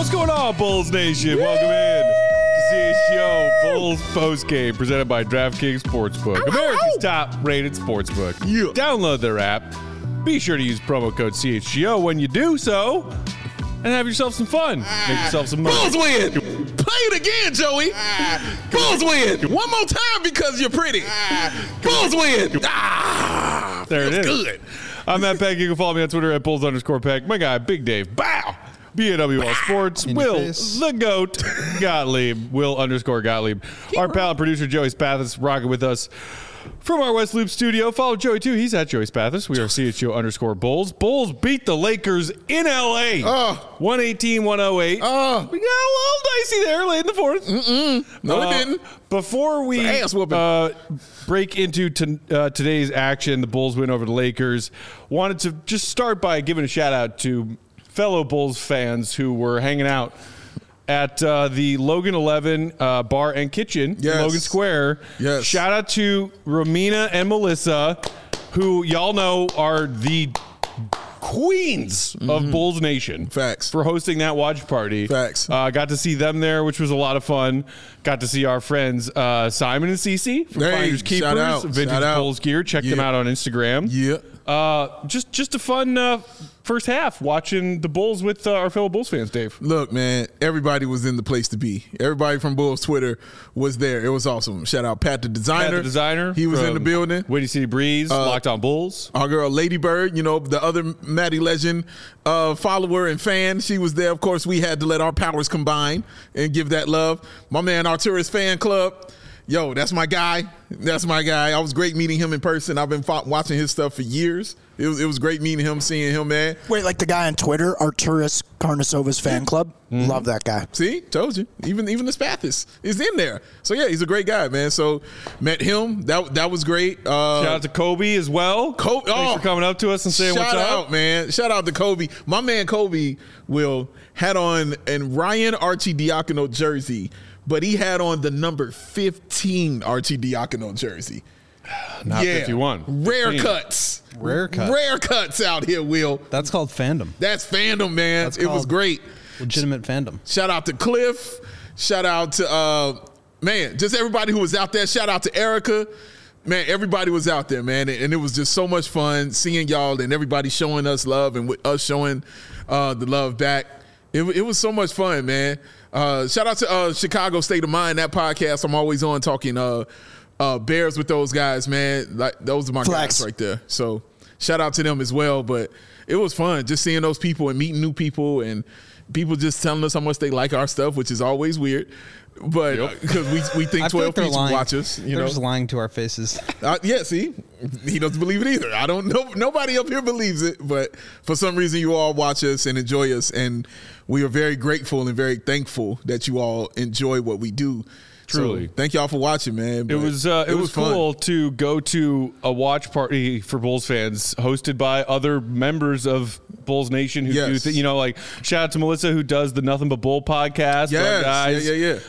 What's going on, Bulls Nation? Welcome in to CHGO Bulls Postgame, presented by DraftKings Sportsbook, America's top-rated sportsbook. Yeah. Download their app. Be sure to use promo code CHGO when you do so, and have yourself some fun. Make yourself some money. Bulls win. Play it again, Joey. Bulls win. One more time because you're pretty. Bulls win. There it is. Good. I'm Matt Peck. You can follow me on Twitter at Bulls_Peck. My guy, Big Dave. Bow. BAWL Sports. Will the GOAT Gottlieb. Will_Gottlieb. Our pal and producer Joey Spathis rocking with us from our West Loop studio. Follow Joey too. He's at Joey Spathis. We are CHGO_Bulls. Bulls beat the Lakers in LA. 118-108. We got a little dicey there late in the fourth. No, it didn't. Before we break into today's action, the Bulls win over the Lakers, wanted to just start by giving a shout out to fellow Bulls fans who were hanging out at the Logan 11 Bar and Kitchen in Logan Square. Yes. Shout out to Romina and Melissa, who y'all know are the queens of Bulls Nation. Facts. For hosting that watch party. Facts. Got to see them there, which was a lot of fun. Got to see our friends Simon and Cece from Finders Keepers, Vintage Bulls Gear. Check them out on Instagram. Yeah. Just a fun first half watching the Bulls with our fellow Bulls fans, Dave. Look, man, everybody was in the place to be. Everybody from Bulls Twitter was there. It was awesome. Shout out Pat the Designer. He was in the building. Windy City Breeze, Locked On Bulls. Our girl Lady Bird, you know, the other Maddie Legend follower and fan. She was there. Of course, we had to let our powers combine and give that love. My man, Arturis Fan Club. Yo, that's my guy. That's my guy. I was great meeting him in person. I've been watching his stuff for years. It was great meeting him, seeing him, man. Wait, like the guy on Twitter, Arturis Karnasova's fan club? Love that guy. See? Told you. Even the Spathis is in there. So, yeah, he's a great guy, man. So, met him. That was great. Shout out to Kobe as well. Thanks for coming up to us and saying what's up. Shout out, man. Shout out to Kobe. My man Kobe had on a Ryan Arcidiacono jersey, but he had on the number 15 Arcidiacono jersey. Not 51. Rare cuts. Rare cuts out here, Will. That's called fandom. That's fandom, man. It was great. Legitimate fandom. Shout out to Cliff. Shout out to, just everybody who was out there. Shout out to Erica. Man, everybody was out there, man. And it was just so much fun seeing y'all and everybody showing us love and with us showing the love back. It was so much fun, man. Shout out to Chicago State of Mind, that podcast I'm always on talking Bears with those guys, man. Like, those are my guys right there. So shout out to them as well. But it was fun just seeing those people and meeting new people and people just telling us how much they like our stuff, which is always weird. But because we think 12 people watch us. They're just lying to our faces. Yeah, see? He doesn't believe it either. I don't know. Nobody up here believes it. But for some reason, you all watch us and enjoy us. And we are very grateful and very thankful that you all enjoy what we do. Truly. So, thank y'all for watching, man. It was cool to go to a watch party for Bulls fans hosted by other members of Bulls Nation who do like shout out to Melissa who does the Nothing But Bull podcast. Yes. Guys.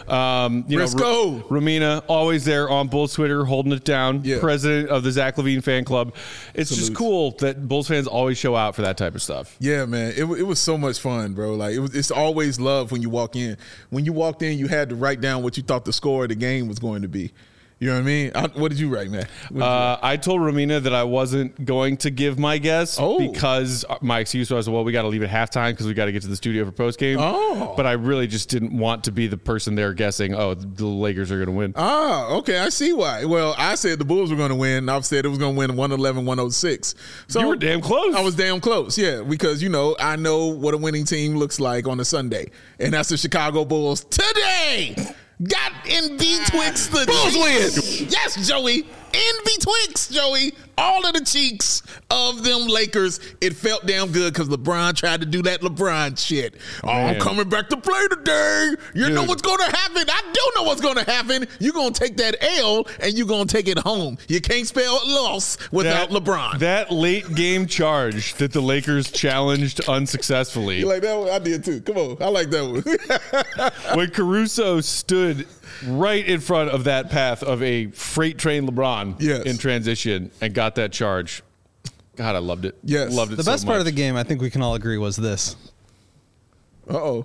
Briscoe. Romina, always there on Bulls Twitter, holding it down. Yeah. President of the Zach LaVine fan club. It's just cool that Bulls fans always show out for that type of stuff. Yeah, man. It was so much fun, bro. Like it's always love when you walk in. When you walked in, you had to write down what you thought the score of the game was going to be. You know what I mean? What did you write, man? I told Romina that I wasn't going to give my guess because my excuse was, well, we got to leave at halftime because we got to get to the studio for postgame. But I really just didn't want to be the person there guessing, the Lakers are going to win. Okay. I see why. Well, I said the Bulls were going to win. I've said it was going to win 111-106. So you were damn close. I was damn close, yeah, because, I know what a winning team looks like on a Sunday. And that's the Chicago Bulls today. Got in betwixt the Bulls win. Yes, Joey. In betwixt, Joey. All of the cheeks of them Lakers. It felt damn good because LeBron tried to do that LeBron shit. I'm coming back to play today. You know what's going to happen. I do know what's going to happen. You're going to take that L and you're going to take it home. You can't spell loss without LeBron. That late game charge that the Lakers challenged unsuccessfully. You like that one? I did too. Come on. I like that one. When Caruso stood right in front of that path of a freight train LeBron in transition and got that charge. God, I loved it. Yes. Loved it The best part of the game, I think we can all agree, was this. Uh-oh.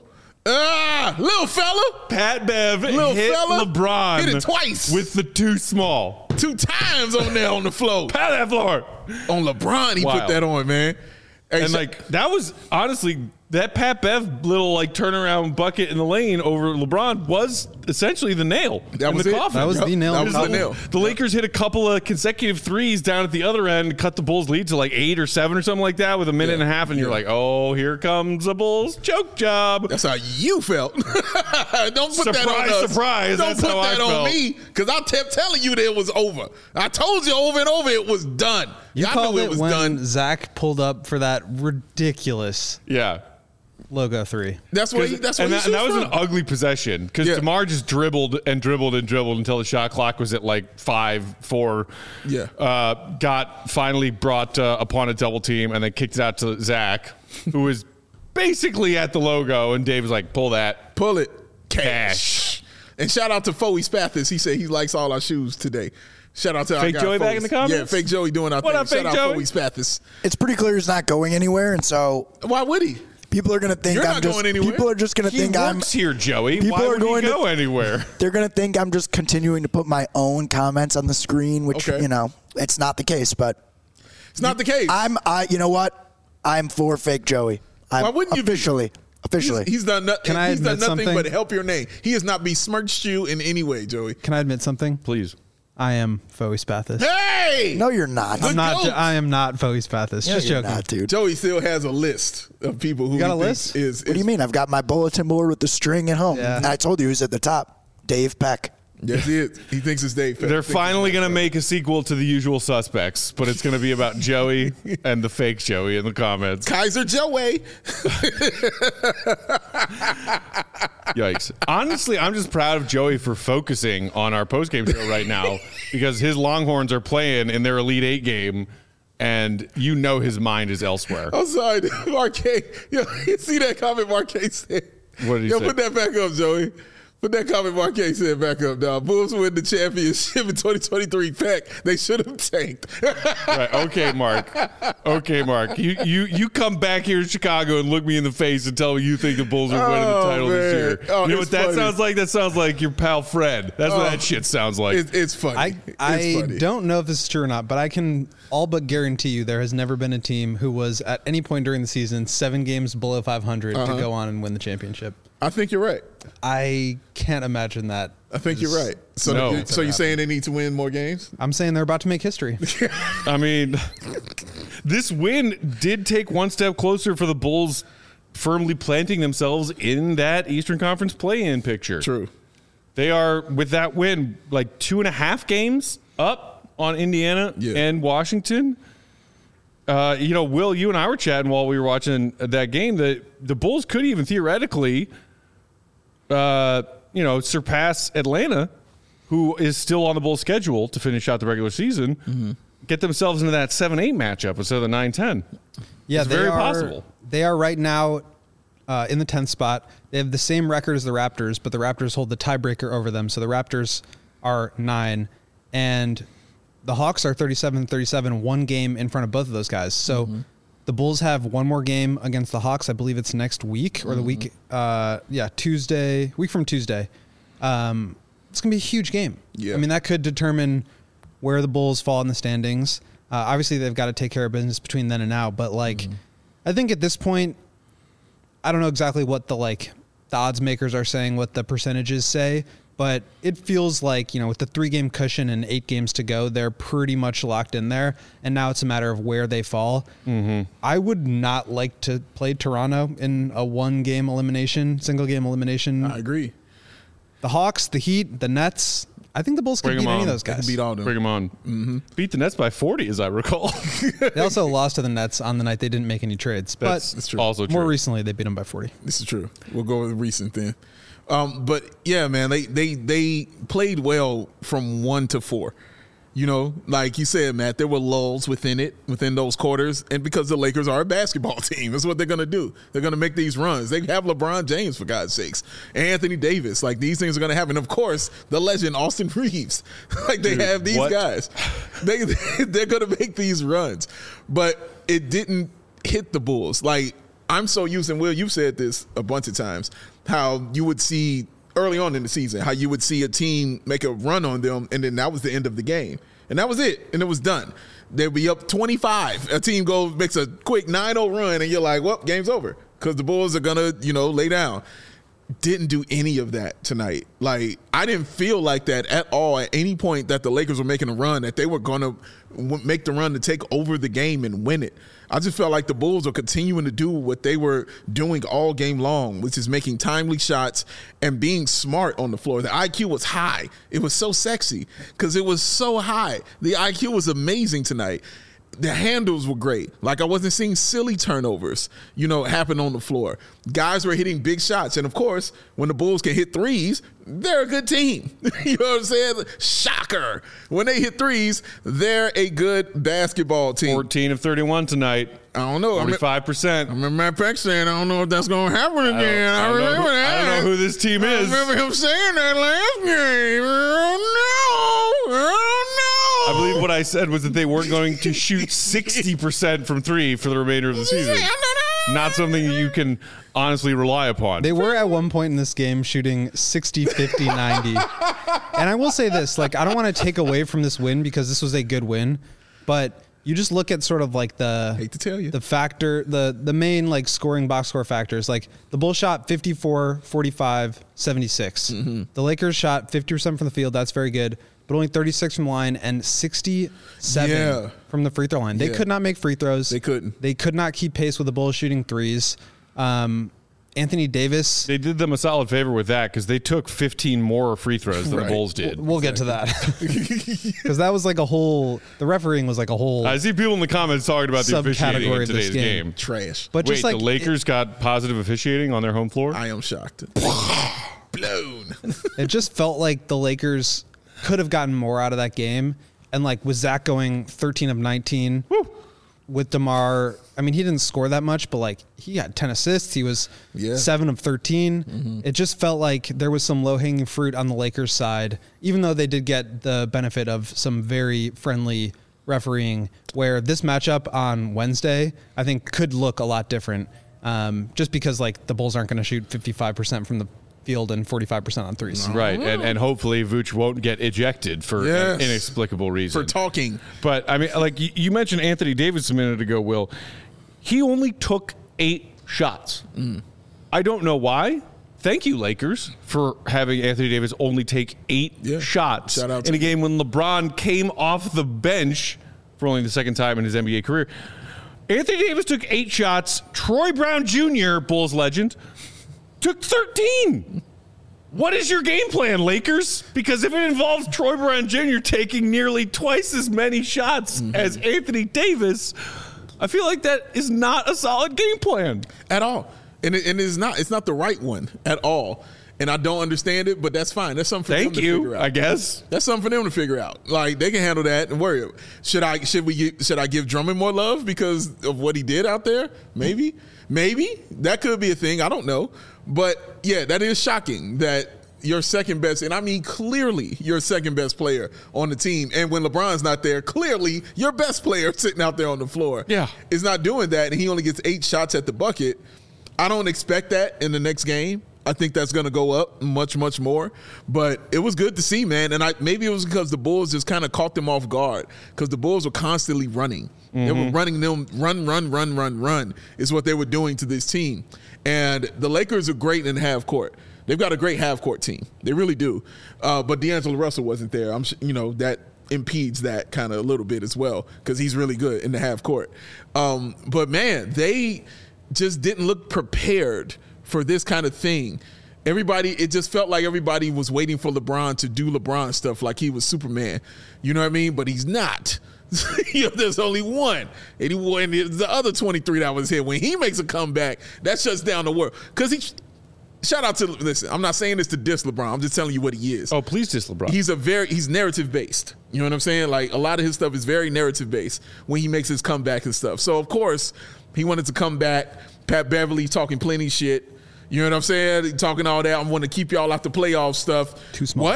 Little fella. Pat Bev Little hit fella. LeBron. Hit it twice. With the too small. 2 times on there on the floor. Pat that floor. On LeBron, he Wow. put that on, man. Hey, And that was honestly that Pat Bev little turnaround bucket in the lane over LeBron was essentially the nail That in was the it. coffin. That was the nail. That was the Coffin. nail. The Lakers hit a couple of consecutive threes down at the other end, cut the Bulls' lead to 8 or 7 or something like that with a minute and a half, and you're like, oh, here comes the Bulls' choke job. That's how you felt. Don't put that on us. Surprise. Don't That's put how I that on felt. me, because I kept telling you that it was over. I told you over and over it was done. You I called knew it it was when done. Zach pulled up for that ridiculous Yeah. logo 3. That's what he And that shoots was an from. ugly possession because Yeah. DeMar just dribbled and dribbled and dribbled until the shot clock was at 5-4. Yeah. Got finally brought upon a double team and then kicked it out to Zach, who was basically at the logo. And Dave was like, pull that. Pull it. Cash. And shout out to Foey Spathis. He said he likes all our shoes today. Shout out to our Fake guy Joey back Foey. in the comments? Yeah, Fake Joey doing our What thing. up, Fake Shout out Joey? Foey Spathis. It's pretty clear he's not going anywhere, and so Why would he? people are going to think You're I'm not just. going anywhere. People are just going to He think I'm. works here, Joey. People Why are would he going to- go anywhere? They're going to think I'm just continuing to put my own comments on the screen, which Okay. it's not the case. But It's not the case. you know what? I'm for Fake Joey. Why wouldn't you be? officially? He's done nothing. Can I he's done admit nothing something? but help your name. He has not besmirched you in any way, Joey. Can I admit something? Please. I am Foey Spathis. Hey! No, you're not. Good goat. I am not Foey Spathis. No, Just you're joking. not, dude. Joey still has a list of people who You got he a thinks list? is. What do you mean? I've got my bulletin board with the string at home. Yeah. And I told you who's at the top. Dave Peck. Yes, he is. He thinks it's Dave. They're finally going to make a sequel to The Usual Suspects, but it's going to be about Joey and the fake Joey in the comments. Kaiser Joey. Yikes. Honestly, I'm just proud of Joey for focusing on our postgame show right now because his Longhorns are playing in their Elite Eight game, and his mind is elsewhere. I'm sorry, Marquez. Yo, you see that comment Marquez said? What did he Yo, say? put that back up, Joey. Put that comment Marquez said back up, dog. Bulls win the championship in 2023. Pack. They should have tanked. Right. Okay, Mark. Okay, Mark. You come back here to Chicago and look me in the face and tell me you think the Bulls are winning the Oh, title this man. year. Oh, You know it's what that funny. sounds like? That sounds like your pal Fred. That's what that shit sounds like. It's funny. I It's funny. don't know if this is true or not, but I can all but guarantee you there has never been a team who was at any point during the season 7 games below 500 to go on and win the championship. I think you're right. I can't imagine that. I think you're right. So, No. so you're saying they need to win more games? I'm saying they're about to make history. I mean, this win did take one step closer for the Bulls firmly planting themselves in that Eastern Conference play-in picture. True. They are, with that win, 2.5 games up on Indiana and Washington. Will, you and I were chatting while we were watching that game that the Bulls could even theoretically, surpass Atlanta, who is still on the Bulls schedule to finish out the regular season, get themselves into that 7-8 matchup instead of the 9-10. Yeah, It's very possible. They are right now in the 10th spot. They have the same record as the Raptors, but the Raptors hold the tiebreaker over them. So the Raptors are 9, and the Hawks are 37-37, 1 game in front of both of those guys. So the Bulls have one more game against the Hawks. I believe it's next week or the week, Tuesday, week from Tuesday. It's going to be a huge game. Yeah. I mean, that could determine where the Bulls fall in the standings. Obviously, they've got to take care of business between then and now. But, I think at this point, I don't know exactly what the odds makers are saying, what the percentages say. But it feels like, with the 3-game cushion and 8 games to go, they're pretty much locked in there. And now it's a matter of where they fall. I would not like to play Toronto in a single game elimination. I agree. The Hawks, the Heat, the Nets. I think the Bulls can Bring beat them any of on. those They can guys. beat all them. Bring them on. Beat the Nets by 40, as I recall. They also lost to the Nets on the night they didn't make any trades. That's true. also true. More recently, they beat them by 40. This is true. We'll go with recent then. But yeah, man, they played well from 1 to 4. Like you said, Matt, there were lulls within those quarters, and because the Lakers are a basketball team, that's what they're going to do. They're going to make these runs. They have LeBron James, for God's sakes, and Anthony Davis. These things are going to happen. Of course, the legend Austin Reeves. They have these guys. They're going to make these runs, but it didn't hit the Bulls. I'm so used, and Will, you've said this a bunch of times. how you would see early on in the season, how you would see a team make a run on them, and then that was the end of the game. And that was it, and it was done. They'd be up 25. A team makes a quick 9-0 run, and you're like, well, game's over because the Bulls are going to, lay down. Didn't do any of that tonight. Like, I didn't feel like that at all at any point that the Lakers were making a run, that they were going to make the run to take over the game and win it. I just felt like the Bulls were continuing to do what they were doing all game long, which is making timely shots and being smart on the floor. The IQ was high. It was so sexy because it was so high. The IQ was amazing tonight. The handles were great. Like, I wasn't seeing silly turnovers, happen on the floor. Guys were hitting big shots. And, of course, when the Bulls can hit threes, they're a good team. You know what I'm saying? Shocker. When they hit threes, they're a good basketball team. 14 of 31 tonight. I don't know. 45%. I remember Matt Peck saying, I don't know if that's going to happen again. I remember that. I don't know who this team is. I remember him saying that last game. I don't know. I believe what I said was that they weren't going to shoot 60% from three for the remainder of the season. Not something you can honestly rely upon. They were at one point in this game shooting 60, 50, 90. And I will say this, I don't want to take away from this win because this was a good win, but you just look at sort of like hate to tell you. the factor, the main scoring box score factors. Like the Bulls shot 54, 45, 76. Mm-hmm. The Lakers shot 50% from the field. That's very good. But only 36 from line and 67 from the free throw line. They could not make free throws. They couldn't. They could not keep pace with the Bulls shooting threes. Anthony Davis. They did them a solid favor with that because they took 15 more free throws than the Bulls did. We'll get to that. Because that was the refereeing was like a whole. I see people in the comments talking about the officiating in today's game. Trash. But wait, the Lakers got positive officiating on their home floor? I am shocked. Blown. It just felt like the Lakers could have gotten more out of that game. And with Zach going 13 of 19 with DeMar, I mean, he didn't score that much, but he had 10 assists. He was 7 of 13. Mm-hmm. It just felt like there was some low hanging fruit on the Lakers side, even though they did get the benefit of some very friendly refereeing, where this matchup on Wednesday, I think could look a lot different. Just because the Bulls aren't going to shoot 55% from the field and 45% on threes. Right, and hopefully Vooch won't get ejected for an inexplicable reason. For talking. But, I mean, you mentioned Anthony Davis a minute ago, Will. He only took 8 shots. Mm. I don't know why. Thank you, Lakers, for having Anthony Davis only take 8 shots in a game when LeBron came off the bench for only the second time in his NBA career. Anthony Davis took 8 shots. Troy Brown Jr., Bulls legend, took 13. What is your game plan, Lakers? Because if it involves Troy Brown Jr. taking nearly twice as many shots as Anthony Davis, I feel like that is not a solid game plan at all. And it's not the right one at all. And I don't understand it, but that's fine. That's something for them to figure out. I guess. That's something for them to figure out. They can handle that and worry. Should I give Drummond more love because of what he did out there? Maybe. That could be a thing. I don't know. But, that is shocking that your second best, and I mean clearly your second best player on the team, and when LeBron's not there, clearly your best player sitting out there on the floor is not doing that, and he only gets 8 shots at the bucket. I don't expect that in the next game. I think that's going to go up much, much more. But it was good to see, man. And maybe it was because the Bulls just kind of caught them off guard because the Bulls were constantly running. Mm-hmm. They were running them, run is what they were doing to this team. And the Lakers are great in half court. They've got a great half court team. They really do. But D'Angelo Russell wasn't there. That impedes that kind of a little bit as well because he's really good in the half court. But, man, they just didn't look prepared for this kind of thing. It just felt like everybody was waiting for LeBron to do LeBron stuff like he was Superman. You know what I mean? But he's not. There's only one. And the other 23 that was here, when he makes a comeback, that shuts down the world. Because shout out to, listen, I'm not saying this to diss LeBron. I'm just telling you what he is. Oh, please diss LeBron. He's narrative based. You know what I'm saying? A lot of his stuff is very narrative based when he makes his comeback and stuff. So, of course, he wanted to come back. Pat Beverly talking plenty shit. You know what I'm saying? Talking all that. I want to keep y'all out the playoff stuff. Too small. What?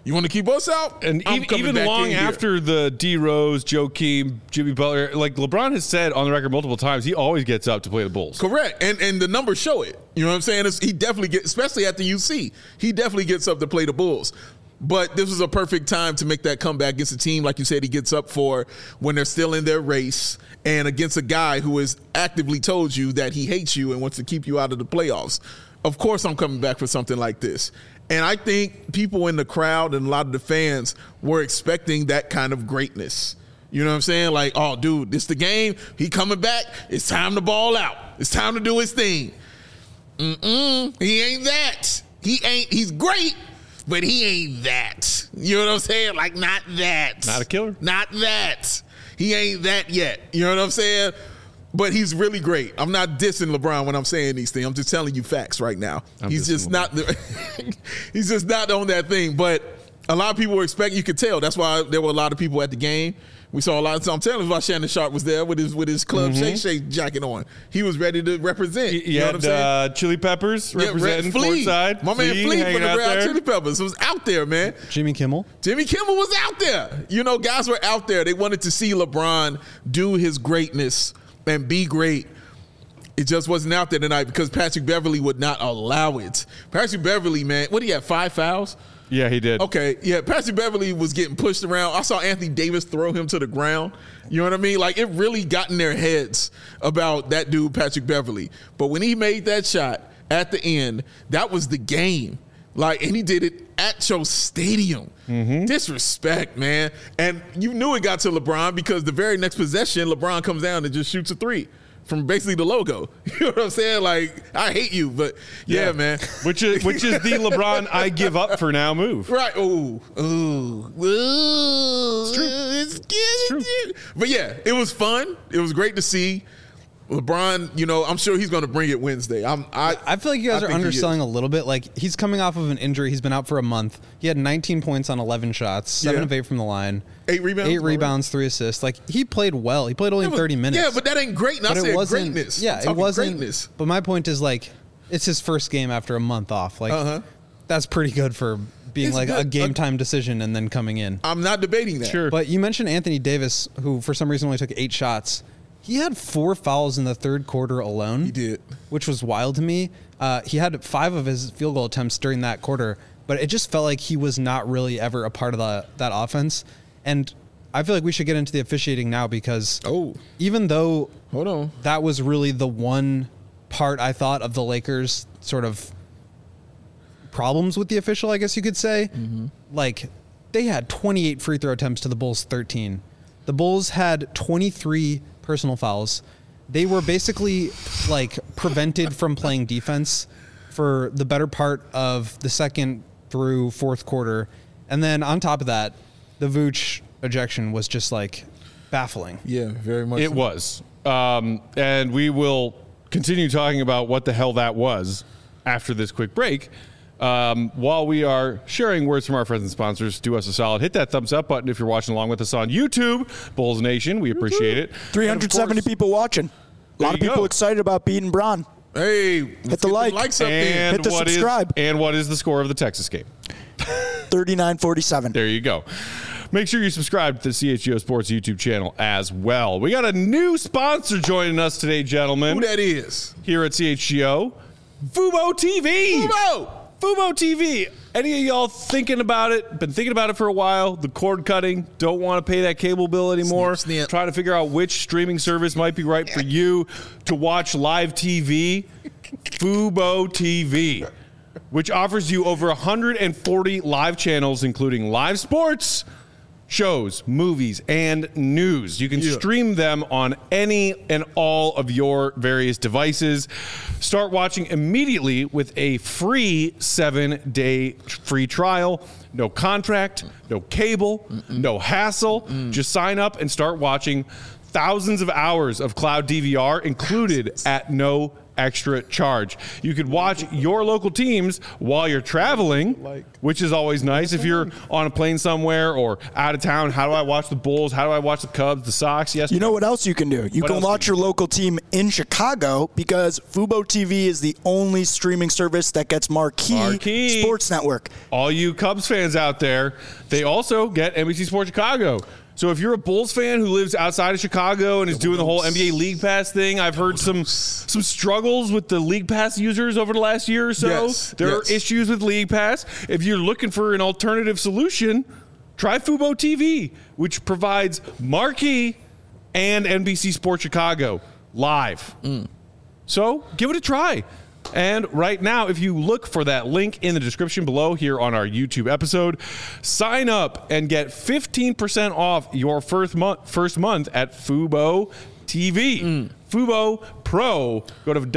You want to keep us out? And I'm coming even back long in here. after the D Rose, Joakim, Jimmy Butler, like LeBron has said on the record multiple times, he always gets up to play the Bulls. Correct. And the numbers show it. You know what I'm saying? He definitely gets, especially at the UC, he definitely gets up to play the Bulls. But this was a perfect time to make that comeback against a team, like you said, he gets up for when they're still in their race and against a guy who has actively told you that he hates you and wants to keep you out of the playoffs. Of course I'm coming back for something like this. And I think people in the crowd and a lot of the fans were expecting that kind of greatness. You know what I'm saying? Like, oh, dude, this the game. He coming back. It's time to ball out. It's time to do his thing. He ain't that. He's great, but he ain't that. You know what I'm saying? Like, not that. Not a killer. Not that. He ain't that yet. You know what I'm saying? But he's really great. I'm not dissing LeBron when I'm saying these things. I'm just telling you facts right now. He's just not he's just not on that thing. But a lot of people were expecting, you could tell. That's why there were a lot of people at the game. We saw a lot. So I'm telling you why Shannon Sharp was there with his Club Shake Shake jacket on. He was ready to represent. You know what I'm saying? Chili Peppers representing courtside. My man Flea from the Red Hot Chili Peppers was out there, man. Jimmy Kimmel was out there. You know, guys were out there. They wanted to see LeBron do his greatness and be great. It just wasn't out there tonight because Patrick Beverley would not allow it. Patrick Beverley, man, what, he had 5 fouls? Yeah, he did. Okay, yeah, Patrick Beverley was getting pushed around. I saw Anthony Davis throw him to the ground. You know what I mean? Like, it really got in their heads about that dude, Patrick Beverley. But when he made that shot at the end, that was the game. Like, and he did it at your stadium. Disrespect, man. And you knew it got to LeBron because the very next possession, LeBron comes down and just shoots a 3 from basically the logo. You know what I'm saying? Like, I hate you, but yeah, man. Which is the LeBron I give up for now move. Right. Ooh. It's true. But yeah, it was fun. It was great to see. LeBron, you know, I'm sure he's going to bring it Wednesday. I feel like you guys are underselling a little bit. Like, he's coming off of an injury. He's been out for a month. He had 19 points on 11 shots, 7 of 8 from the line. 8 rebounds? 8 rebounds, 3 assists. Like, he played well. He played only 30 minutes. Yeah, but that ain't great. Not saying greatness. Yeah, it wasn't. Greatness. But my point is, like, it's his first game after a month off. Like, that's pretty good for being a game time decision and then coming in. I'm not debating that. Sure. But you mentioned Anthony Davis, who for some reason only took 8 shots. He had 4 fouls in the third quarter alone. He did. Which was wild to me. He had 5 of his field goal attempts during that quarter, but it just felt like he was not really ever a part of that offense. And I feel like we should get into the officiating now because even though that was really the one part I thought of the Lakers' sort of problems with the official, I guess you could say, like they had 28 free throw attempts to the Bulls' 13. The Bulls had 23 personal fouls. They were basically like prevented from playing defense for the better part of the second through fourth quarter. And then on top of that, the Vooch ejection was just like baffling. Yeah, very much. It was. And we will continue talking about what the hell that was after this quick break. While we are sharing words from our friends and sponsors, do us a solid. Hit that thumbs up button if you're watching along with us on YouTube. Bulls Nation, we appreciate it. 370 people watching. A lot of people excited about beating Bron. Hey, hit the like. Likes up there. Hit the subscribe. And what is the score of the Texas game? 39-47. There you go. Make sure you subscribe to the CHGO Sports YouTube channel as well. We got a new sponsor joining us today, gentlemen. Who that is? Here at CHGO, Fubo TV. Fubo TV. Any of y'all thinking about it? Been thinking about it for a while. The cord cutting. Don't want to pay that cable bill anymore. Snip. Trying to figure out which streaming service might be right for you to watch live TV. Fubo TV, which offers you over 140 live channels, including live sports, shows, movies, and news. You can stream them on any and all of your various devices. Start watching immediately with a free 7-day free trial. No contract, no cable, no hassle. Just sign up and start watching thousands of hours of cloud DVR included at no extra charge. You could watch your local teams while you're traveling, which is always nice. If you're on a plane somewhere or out of town, how do I watch the Bulls? How do I watch the Cubs, the Sox? Yes. You know what else you can do? You can watch your local team in Chicago because Fubo TV is the only streaming service that gets Marquee Sports Network. All you Cubs fans out there, they also get NBC Sports Chicago. So if you're a Bulls fan who lives outside of Chicago and is doing the whole NBA League Pass thing, I've heard some struggles with the League Pass users over the last year or so. There are issues with League Pass. If you're looking for an alternative solution, try Fubo TV, which provides Marquee and NBC Sports Chicago live. So give it a try. And right now, if you look for that link in the description below here on our YouTube episode, sign up and get 15% off your first month at Fubo TV. Fubo Pro. Go to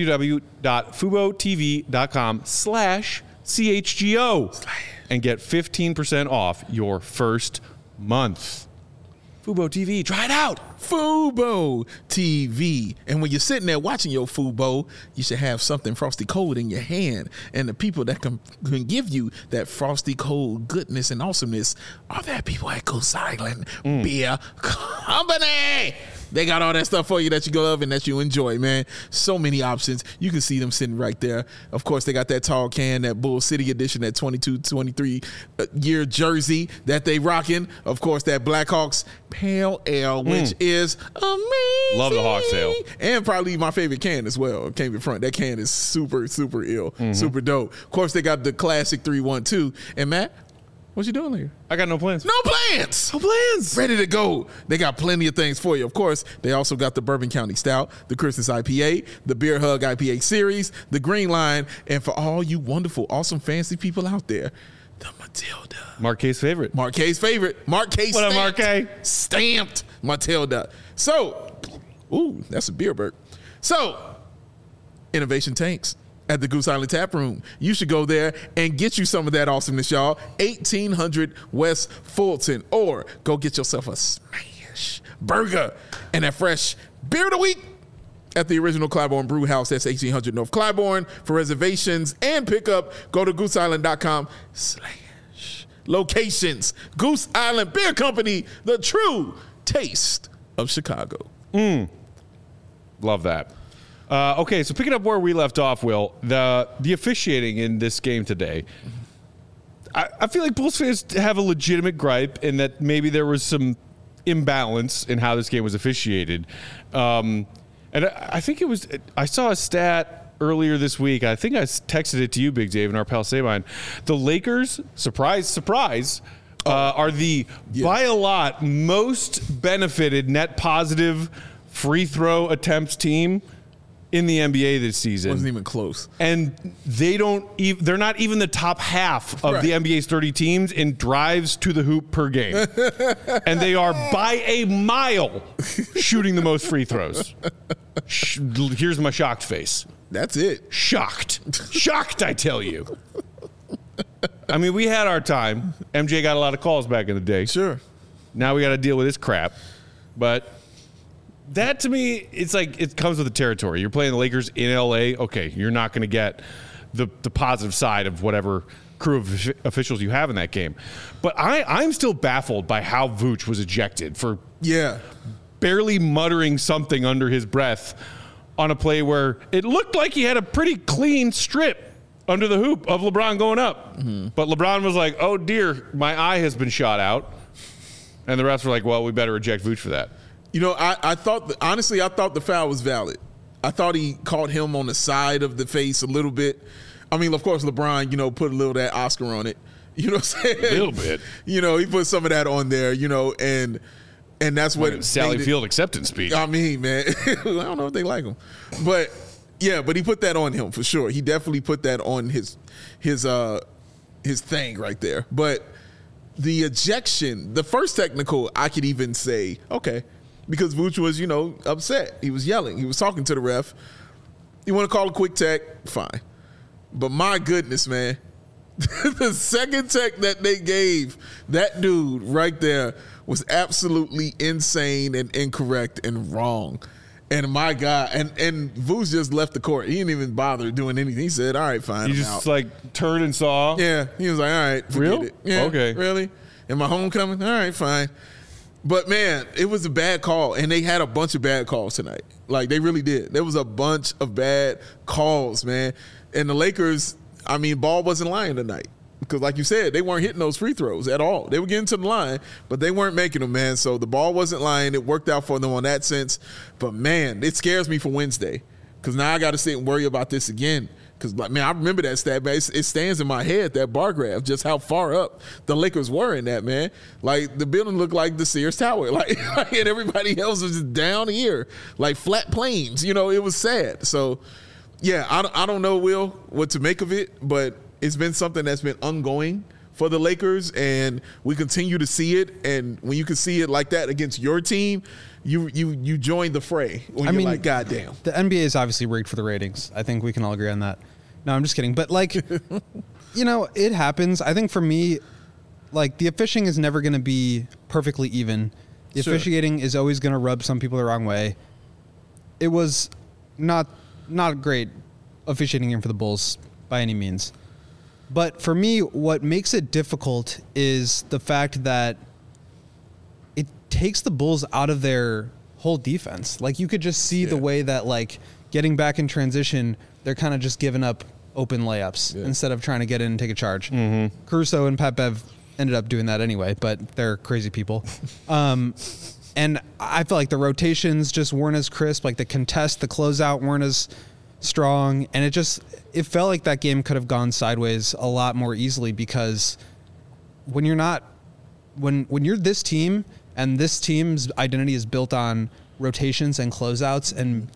www.fubotv.com/CHGO and get 15% off your first month. Fubo TV, try it out. Fubo TV. And when you're sitting there watching your Fubo, you should have something frosty cold in your hand. And the people that can give you that frosty cold goodness and awesomeness are that people at Goose Island Beer Company. They got all that stuff for you that you love and that you enjoy, man. So many options. You can see them sitting right there. Of course, they got that tall can, that Bull City edition, that 22-23 year jersey that they rocking. Of course, that Blackhawks Pale Ale, which is amazing. Love the Hawks Ale. And probably my favorite can as well. Came in front. That can is super, super ill. Super dope. Of course, they got the classic 312. And Matt, what you doing here? I got no plans. No plans. No plans. Ready to go. They got plenty of things for you. Of course, they also got the Bourbon County Stout, the Christmas IPA, the Beer Hug IPA series, the Green Line, and for all you wonderful, awesome, fancy people out there, the Matilda. Marquet's favorite. Marquet's favorite. Marquet What up, stamped. Marquet? Stamped Matilda. So, ooh, that's a beer burp. So, Innovation Tanks at the Goose Island Tap Room. You should go there and get you some of that awesomeness, y'all. 1800 West Fulton. Or go get yourself a smash burger and a fresh beer of the week at the original Clybourne Brew House. That's 1800 North Clybourne. For reservations and pickup, go to gooseisland.com/locations. Goose Island Beer Company, the true taste of Chicago. Love that. Okay, so picking up where we left off, Will, the officiating in this game today, I feel like Bulls fans have a legitimate gripe in that maybe there was some imbalance in how this game was officiated. And I think I saw a stat earlier this week. I think I texted it to you, Big Dave, and our pal Sabine. The Lakers, surprise, surprise, are the, by a lot, most benefited net positive free throw attempts team in the NBA this season. Wasn't even close. And they're not even the top half of the NBA's 30 teams in drives to the hoop per game. And they are by a mile shooting the most free throws. Here's my shocked face. That's it. Shocked. Shocked, I tell you. I mean, we had our time. MJ got a lot of calls back in the day. Sure. Now we got to deal with this crap. But that, to me, it's like it comes with the territory. You're playing the Lakers in L.A. Okay, you're not going to get the positive side of whatever crew of officials you have in that game. But I'm still baffled by how Vooch was ejected for barely muttering something under his breath on a play where it looked like he had a pretty clean strip under the hoop of LeBron going up. But LeBron was like, oh, dear, my eye has been shot out. And the refs were like, well, we better eject Vooch for that. You know, I thought, honestly, I thought the foul was valid. I thought he caught him on the side of the face a little bit. I mean, of course, LeBron, put a little of that Oscar on it. You know what I'm saying? A little bit. He put some of that on there, and that's what Sally Field acceptance speech. I mean, man, I don't know if they like him. But, yeah, but he put that on him for sure. He definitely put that on his thing right there. But the ejection, the first technical, I could even say, okay, because Vooch was, upset. He was yelling. He was talking to the ref. You want to call a quick tech? Fine. But my goodness, man, the second tech that they gave that dude right there was absolutely insane and incorrect and wrong. And my God, and Vooch just left the court. He didn't even bother doing anything. He said, all right, fine. He just like turned and saw. Yeah. He was like, all right, forget Real? it. Yeah, Okay. Really? Am I homecoming? All right, fine. But man, it was a bad call, and they had a bunch of bad calls tonight. Like they really did. There was a bunch of bad calls, man. And the Lakers, I mean, ball wasn't lying tonight. Because like you said, they weren't hitting those free throws at all. They were getting to the line, but they weren't making them, man. So the ball wasn't lying. It worked out for them on that sense. But, man, it scares me for Wednesday because now I got to sit and worry about this again. Because, like, man, I remember that stat, man. It stands in my head, that bar graph, just how far up the Lakers were in that, man. Like, the building looked like the Sears Tower. Like and everybody else was just down here, like flat plains. You know, it was sad. So, yeah, I don't know, Will, what to make of it, but it's been something that's been ongoing for the Lakers, and we continue to see it. And when you can see it like that against your team, you join the fray. When you're like, God damn. The NBA is obviously rigged for the ratings. I think we can all agree on that. No, I'm just kidding. But, like, you know, it happens. I think for me, like, the officiating is never going to be perfectly even. The officiating is always going to rub some people the wrong way. It was not great officiating game for the Bulls by any means. But for me, what makes it difficult is the fact that it takes the Bulls out of their whole defense. Like, you could just see the way that, like, getting back in transition, they're kind of just giving up open layups instead of trying to get in and take a charge. Mm-hmm. Caruso and Pat Bev ended up doing that anyway, but they're crazy people. And I feel like the rotations just weren't as crisp. Like, the contest, the closeout weren't as strong, and it felt like that game could have gone sideways a lot more easily because when you're this team and this team's identity is built on rotations and closeouts and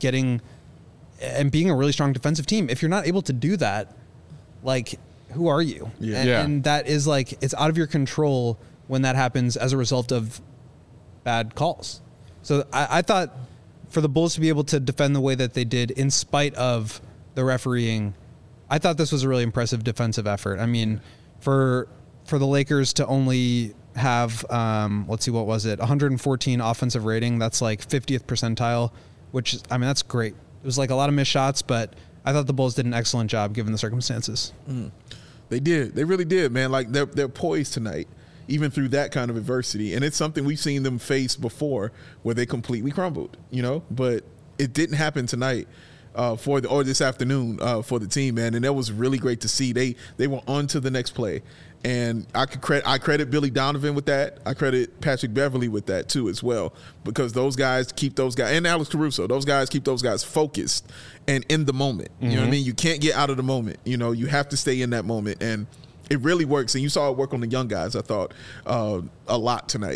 being a really strong defensive team, if you're not able to do that, like, who are you? And that is like, it's out of your control when that happens as a result of bad calls. So I thought for the Bulls to be able to defend the way that they did in spite of the refereeing, I thought this was a really impressive defensive effort. I mean, for the Lakers to only have, let's see, what was it? 114 offensive rating. That's like 50th percentile, which, I mean, that's great. It was like a lot of missed shots, but I thought the Bulls did an excellent job given the circumstances. They did. They really did, man. Like, they're poised tonight, even through that kind of adversity. And it's something we've seen them face before where they completely crumbled, you know, but it didn't happen tonight or this afternoon for the team, man. And that was really great to see. They were on to the next play. And I credit Billy Donovan with that. I credit Patrick Beverley with that too as well, because those guys keep those guys, and Alex Caruso, those guys keep those guys focused and in the moment. You know what I mean? You can't get out of the moment. You know, you have to stay in that moment. And it really works, and you saw it work on the young guys, I thought, a lot tonight.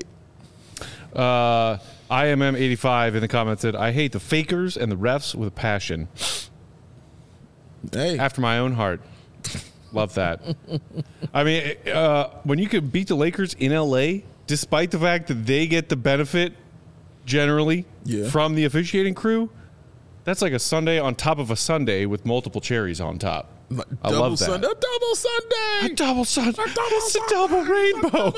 IMM85 in the comments said, I hate the fakers and the refs with a passion. Hey. After my own heart. Love that. I mean, when you could beat the Lakers in L.A., despite the fact that they get the benefit generally from the officiating crew, that's like a sundae on top of a sundae with multiple cherries on top. I love that. Sunday, a double Sunday. A double Sunday. It's a double rainbow.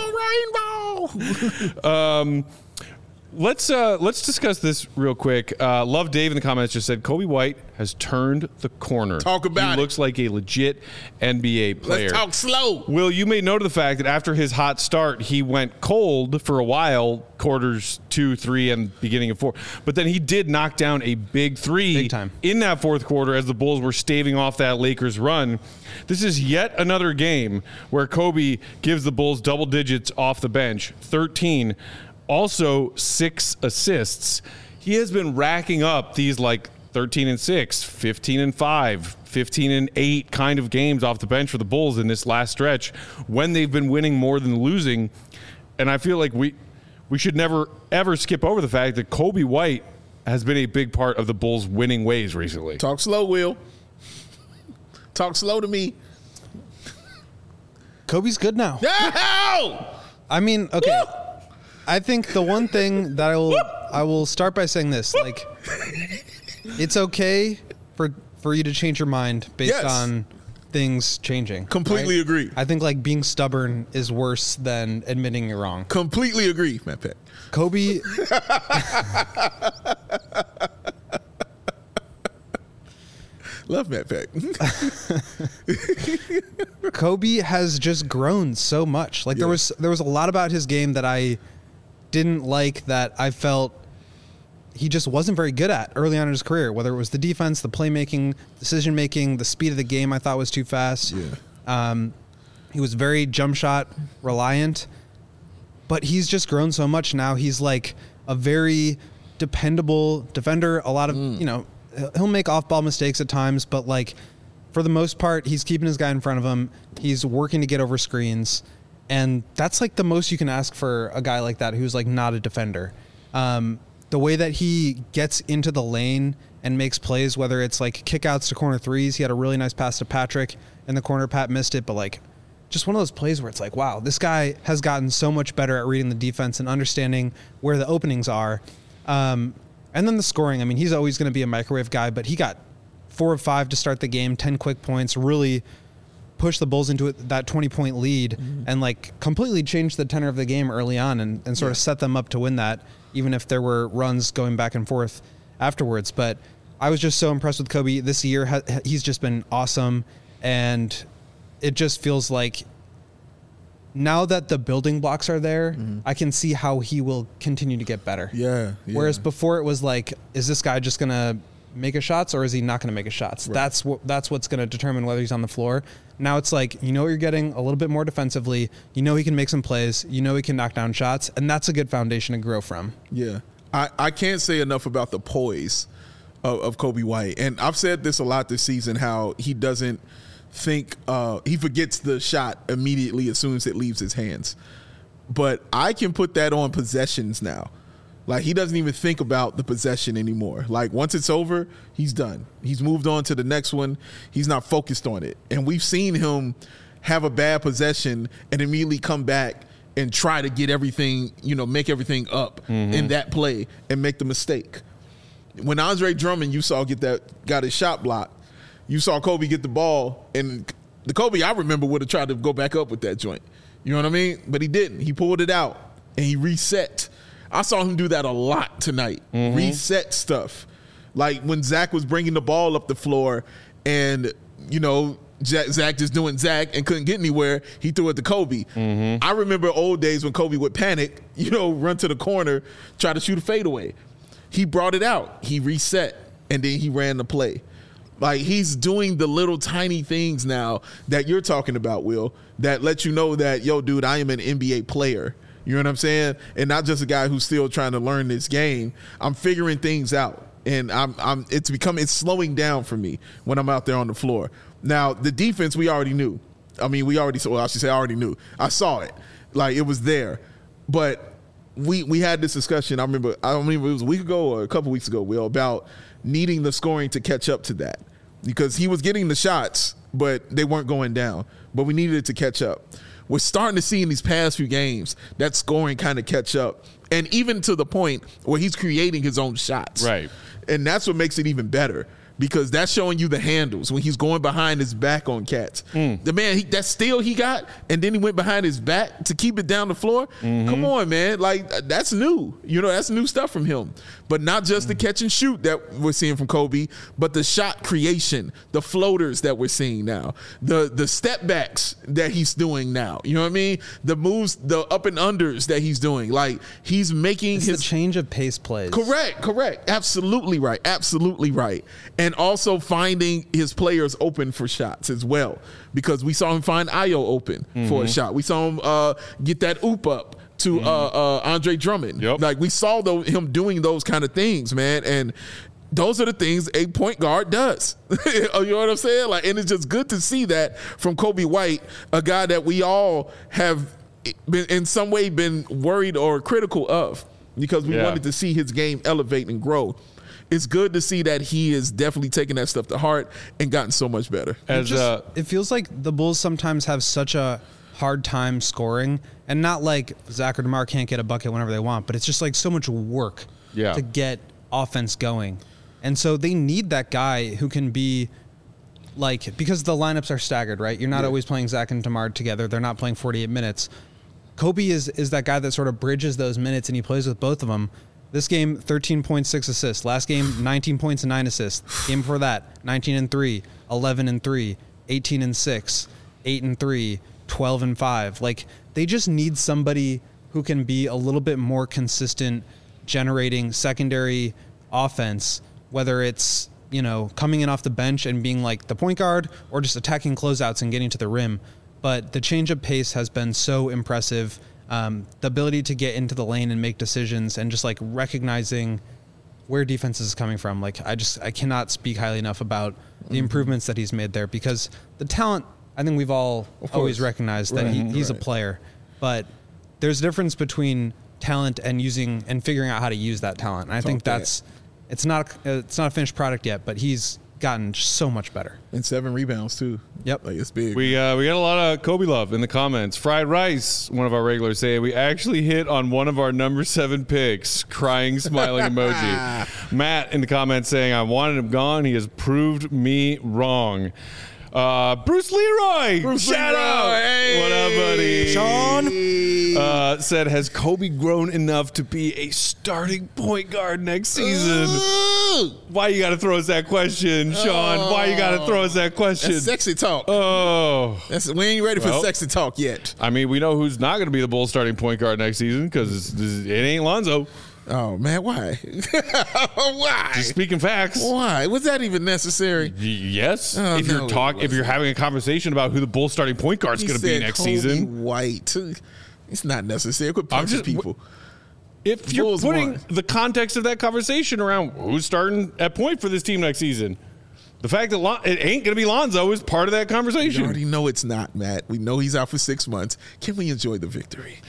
Double rainbow. Let's discuss this real quick. Love Dave in the comments just said Kobe White has turned the corner. Talk about it. He looks like a legit NBA player. Let's talk slow. Will, you made note of the fact that after his hot start, he went cold for a while, quarters 2, 3, and beginning of 4. But then he did knock down a big 3 Big time. in that fourth quarter as the Bulls were staving off that Lakers run. This is yet another game where Kobe gives the Bulls double digits off the bench, 13. Also 6 assists. He has been racking up these like 13-6, 15-5, 15-8 kind of games off the bench for the Bulls in this last stretch when they've been winning more than losing. And I feel like we should never, ever skip over the fact that Kobe White has been a big part of the Bulls' winning ways recently. Talk slow, Will. Talk slow to me. Kobe's good now. No! I mean, okay. Woo! I think the one thing that I will start by saying this, like, it's okay for you to change your mind based on things changing. Completely agree. I think, like, being stubborn is worse than admitting you're wrong. Completely agree, Matt Peck. Kobe Love Matt Peck. Kobe has just grown so much. Like there was a lot about his game that I didn't like, that I felt he just wasn't very good at early on in his career, whether it was the defense, the playmaking, decision making, the speed of the game I thought was too fast. He was very jump shot reliant, but he's just grown so much now. He's like a very dependable defender. A lot of, he'll make off-ball mistakes at times, but like for the most part, he's keeping his guy in front of him. He's working to get over screens, and that's like the most you can ask for a guy like that who's like not a defender. The way that he gets into the lane and makes plays, whether it's like kickouts to corner threes. He had a really nice pass to Patrick in the corner. Pat missed it, but like just one of those plays where it's like, wow, this guy has gotten so much better at reading the defense and understanding where the openings are. And then the scoring. I mean, he's always going to be a microwave guy, but he got 4 of 5 to start the game, 10 quick points, really pushed the Bulls into that 20-point lead and like completely changed the tenor of the game early on and sort of set them up to win that, even if there were runs going back and forth afterwards. But I was just so impressed with Kobe this year. He's just been awesome. And it just feels like now that the building blocks are there, I can see how he will continue to get better. Yeah. Whereas before it was like, is this guy just going to make his shots or is he not going to make his shots? Right. That's what's going to determine whether he's on the floor. Now it's like, you know what you're getting a little bit more defensively. You know he can make some plays. You know he can knock down shots. And that's a good foundation to grow from. Yeah. I can't say enough about the poise of Kobe White. And I've said this a lot this season, how he doesn't think he forgets the shot immediately as soon as it leaves his hands. But I can put that on possessions now. Like, he doesn't even think about the possession anymore. Like, once it's over, he's done. He's moved on to the next one. He's not focused on it. And we've seen him have a bad possession and immediately come back and try to get everything, make everything up in that play and make the mistake. When Andre Drummond, you saw got his shot blocked, you saw Kobe get the ball, and the Kobe I remember would have tried to go back up with that joint. You know what I mean? But he didn't. He pulled it out, and he reset. I saw him do that a lot tonight. Reset stuff. Like when Zach was bringing the ball up the floor and, Zach just doing Zach and couldn't get anywhere, he threw it to Kobe. I remember old days when Kobe would panic, run to the corner, try to shoot a fadeaway. He brought it out. He reset, and then he ran the play. Like, he's doing the little tiny things now that you're talking about, Will, that let you know that, yo, dude, I am an NBA player. You know what I'm saying? And not just a guy who's still trying to learn this game. I'm figuring things out, and it's slowing down for me when I'm out there on the floor. Now, the defense we already knew. I mean, I already knew. I saw it. Like, it was there. But we had this discussion. I don't remember if it was a week ago or a couple weeks ago, Will, about needing the scoring to catch up to that, because he was getting the shots, but they weren't going down. But we needed it to catch up. We're starting to see in these past few games that scoring kind of catch up, and even to the point where he's creating his own shots. Right. And that's what makes it even better, because that's showing you the handles when he's going behind his back on cats. The man, that steal he got, and then he went behind his back to keep it down the floor. Come on, man. Like, that's new. That's new stuff from him. But not just the catch and shoot that we're seeing from Kobe, but the shot creation, the floaters that we're seeing now, the step backs that he's doing now. You know what I mean? The moves, the up and unders that he's doing. Like, he's making the change of pace plays. Correct. Absolutely right. And also finding his players open for shots as well, because we saw him find Ayo open for a shot. We saw him get that oop up to Andre Drummond. Yep. Like, we saw him doing those kind of things, man. And those are the things a point guard does. You know what I'm saying? Like, and it's just good to see that from Kobe White, a guy that we all have been in some way been worried or critical of, because we wanted to see his game elevate and grow. It's good to see that he is definitely taking that stuff to heart and gotten so much better. It feels like the Bulls sometimes have such a hard time scoring, and not like Zach or DeMar can't get a bucket whenever they want, but it's just like so much work to get offense going. And so they need that guy who can be like, because the lineups are staggered, right? You're not always playing Zach and DeMar together. They're not playing 48 minutes. Kobe is that guy that sort of bridges those minutes, and he plays with both of them. This game, 13 points, 6 assists. Last game, 19 points and 9 assists. Game before that, 19 and 3, 11 and 3, 18 and 6, 8 and 3, 12 and 5. Like, they just need somebody who can be a little bit more consistent generating secondary offense, whether it's, you know, coming in off the bench and being like the point guard or just attacking closeouts and getting to the rim. But the change of pace has been so impressive. The ability to get into the lane and make decisions and just like recognizing where defense is coming from. Like, I cannot speak highly enough about the improvements that he's made there, because the talent, I think we've all always recognized that he's a player, but there's a difference between talent and using and figuring out how to use that talent. And I think it's not a finished product yet, but he's gotten so much better. And 7 rebounds too. Yep. Like, it's big. We got a lot of Kobe love in the comments. Fried Rice, one of our regulars, saying we actually hit on one of our number 7 picks. Crying, smiling emoji. Matt in the comments saying I wanted him gone. He has proved me wrong. Bruce Leroy, shout out. Hey. What up, buddy? Sean said, has Kobe grown enough to be a starting point guard next season? Why you got to throw us that question, Sean? Why you got to throw us that question? That's sexy talk. We ain't ready for sexy talk yet. I mean, we know who's not going to be the Bulls starting point guard next season, because it ain't Lonzo. Oh, man, why? Why? Just speaking facts. Why? Was that even necessary? Yes. If you're having a conversation about who the Bulls starting point guard is going to be next season. White. It's not necessary. Quit punching people. If you're putting the context of that conversation around who's starting at point for this team next season, the fact that it ain't going to be Lonzo is part of that conversation. We already know it's not, Matt. We know he's out for 6 months. Can we enjoy the victory?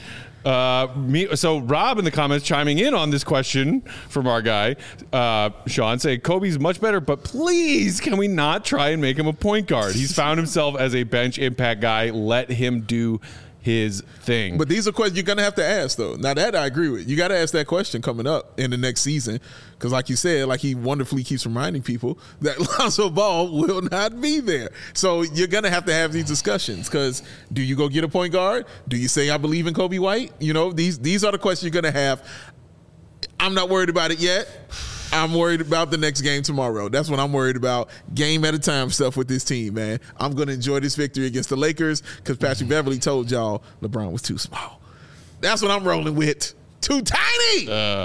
So Rob in the comments chiming in on this question from our guy, Sean, saying Kobe's much better, but please can we not try and make him a point guard? He's found himself as a bench impact guy. Let him do his thing. But these are questions you're going to have to ask, though. Now, that I agree with. You got to ask that question coming up in the next season, because like you said, like he wonderfully keeps reminding people that Lonzo Ball will not be there. So you're going to have these discussions, because do you go get a point guard? Do you say I believe in Kobe White? You know, these are the questions you're going to have. I'm not worried about it yet. I'm worried about the next game tomorrow. That's what I'm worried about. Game at a time stuff with this team, man. I'm going to enjoy this victory against the Lakers, because Patrick Beverley told y'all LeBron was too small. That's what I'm rolling with. Too tiny.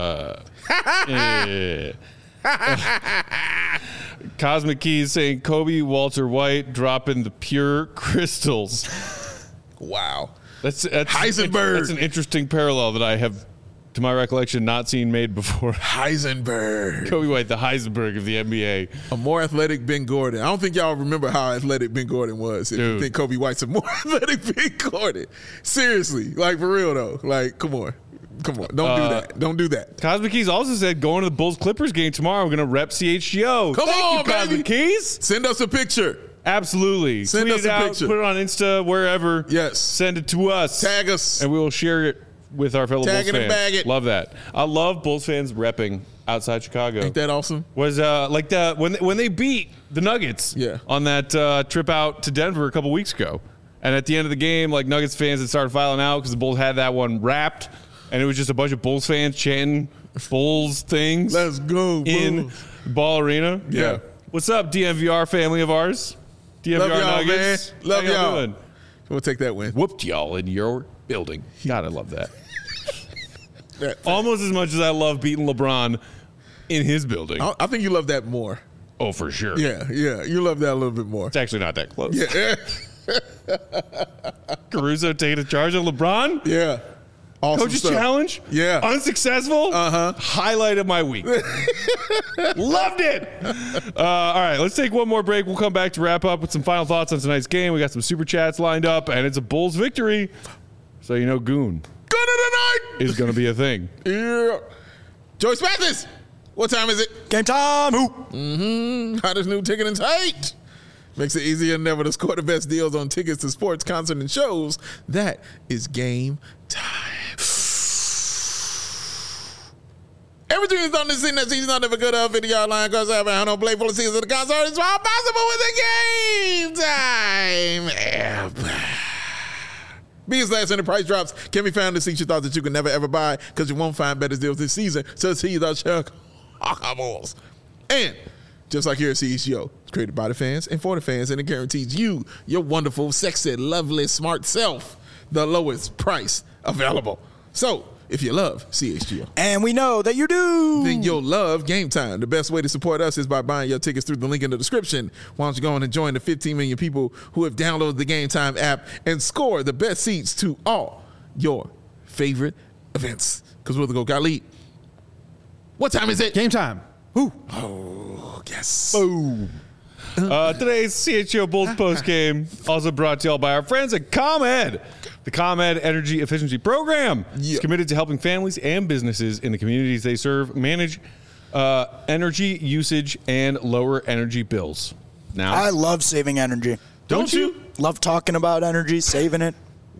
Cosmic Keys saying Kobe, Walter White dropping the pure crystals. Wow. That's Heisenberg. That's an interesting parallel that I have, to my recollection, not seen made before. Heisenberg. Kobe White, the Heisenberg of the NBA. A more athletic Ben Gordon. I don't think y'all remember how athletic Ben Gordon was. If you think Kobe White's a more athletic Ben Gordon. Seriously. Like, for real, though. Like, come on. Don't do that. Don't do that. Cosmic Keys also said, going to the Bulls-Clippers game tomorrow, we're going to rep CHGO. Thank you, Cosmic Keys. Send us a picture. Absolutely. Send Tweet us a picture. Put it on Insta, wherever. Yes. Send it to us. Tag us. And we will share it with our fellow Bulls fans. And bag it. Love that. I love Bulls fans repping outside Chicago. Ain't that awesome? Was like when they beat the Nuggets on that trip out to Denver a couple weeks ago. And at the end of the game, like, Nuggets fans had started filing out because the Bulls had that one wrapped. And it was just a bunch of Bulls fans chanting Bulls things. Let's go, in Ball Arena. Yeah. What's up, DMVR family of ours? DMVR Love y'all, Nuggets. man. Love How y'all. doing? We'll take that win. Whooped y'all in your building. God, I love that. Almost as much as I love beating LeBron in his building. I think you love that more. Oh, for sure. Yeah. You love that a little bit more. It's actually not that close. Yeah. Caruso taking charge of LeBron. Yeah. Awesome Coach's stuff. challenge. Yeah. Unsuccessful. Highlight of my week. Loved it. All right, let's take one more break. We'll come back to wrap up with some final thoughts on tonight's game. We got some super chats lined up, and it's a Bulls victory. So you know Goon tonight is going to be a thing. Yeah. Joyce Mathis, what time is it? Game time. Who? Hottest new ticket and tight. Makes it easier than ever to score the best deals on tickets to sports, concerts, and shows. That is Game Time. Everything is on the scene that season, not never good of video line because I have no play full of seasons of the concert. It's all possible with the Game Time app. Biggest last minute price drops can be found in seats you thought that you could never ever buy because you won't find better deals this season. So see the Chicago Bulls. And just like here at CHGO, it's created by the fans and for the fans, and it guarantees you, your wonderful, sexy, lovely, smart self, the lowest price available. So if you love CHGO, and we know that you do, then you'll love Game Time. The best way to support us is by buying your tickets through the link in the description. Why don't you go on and join the 15 million people who have downloaded the Game Time app and score the best seats to all your favorite events? Because we're the GOAT Lead. What time is it? Game time. Ooh. Oh, yes. Boom. Today's CHGO Bulls post game also brought to y'all by our friends at ComEd. The ComEd Energy Efficiency Program is committed to helping families and businesses in the communities they serve manage energy usage and lower energy bills. Now, I love saving energy. Don't you? Love talking about energy, saving it.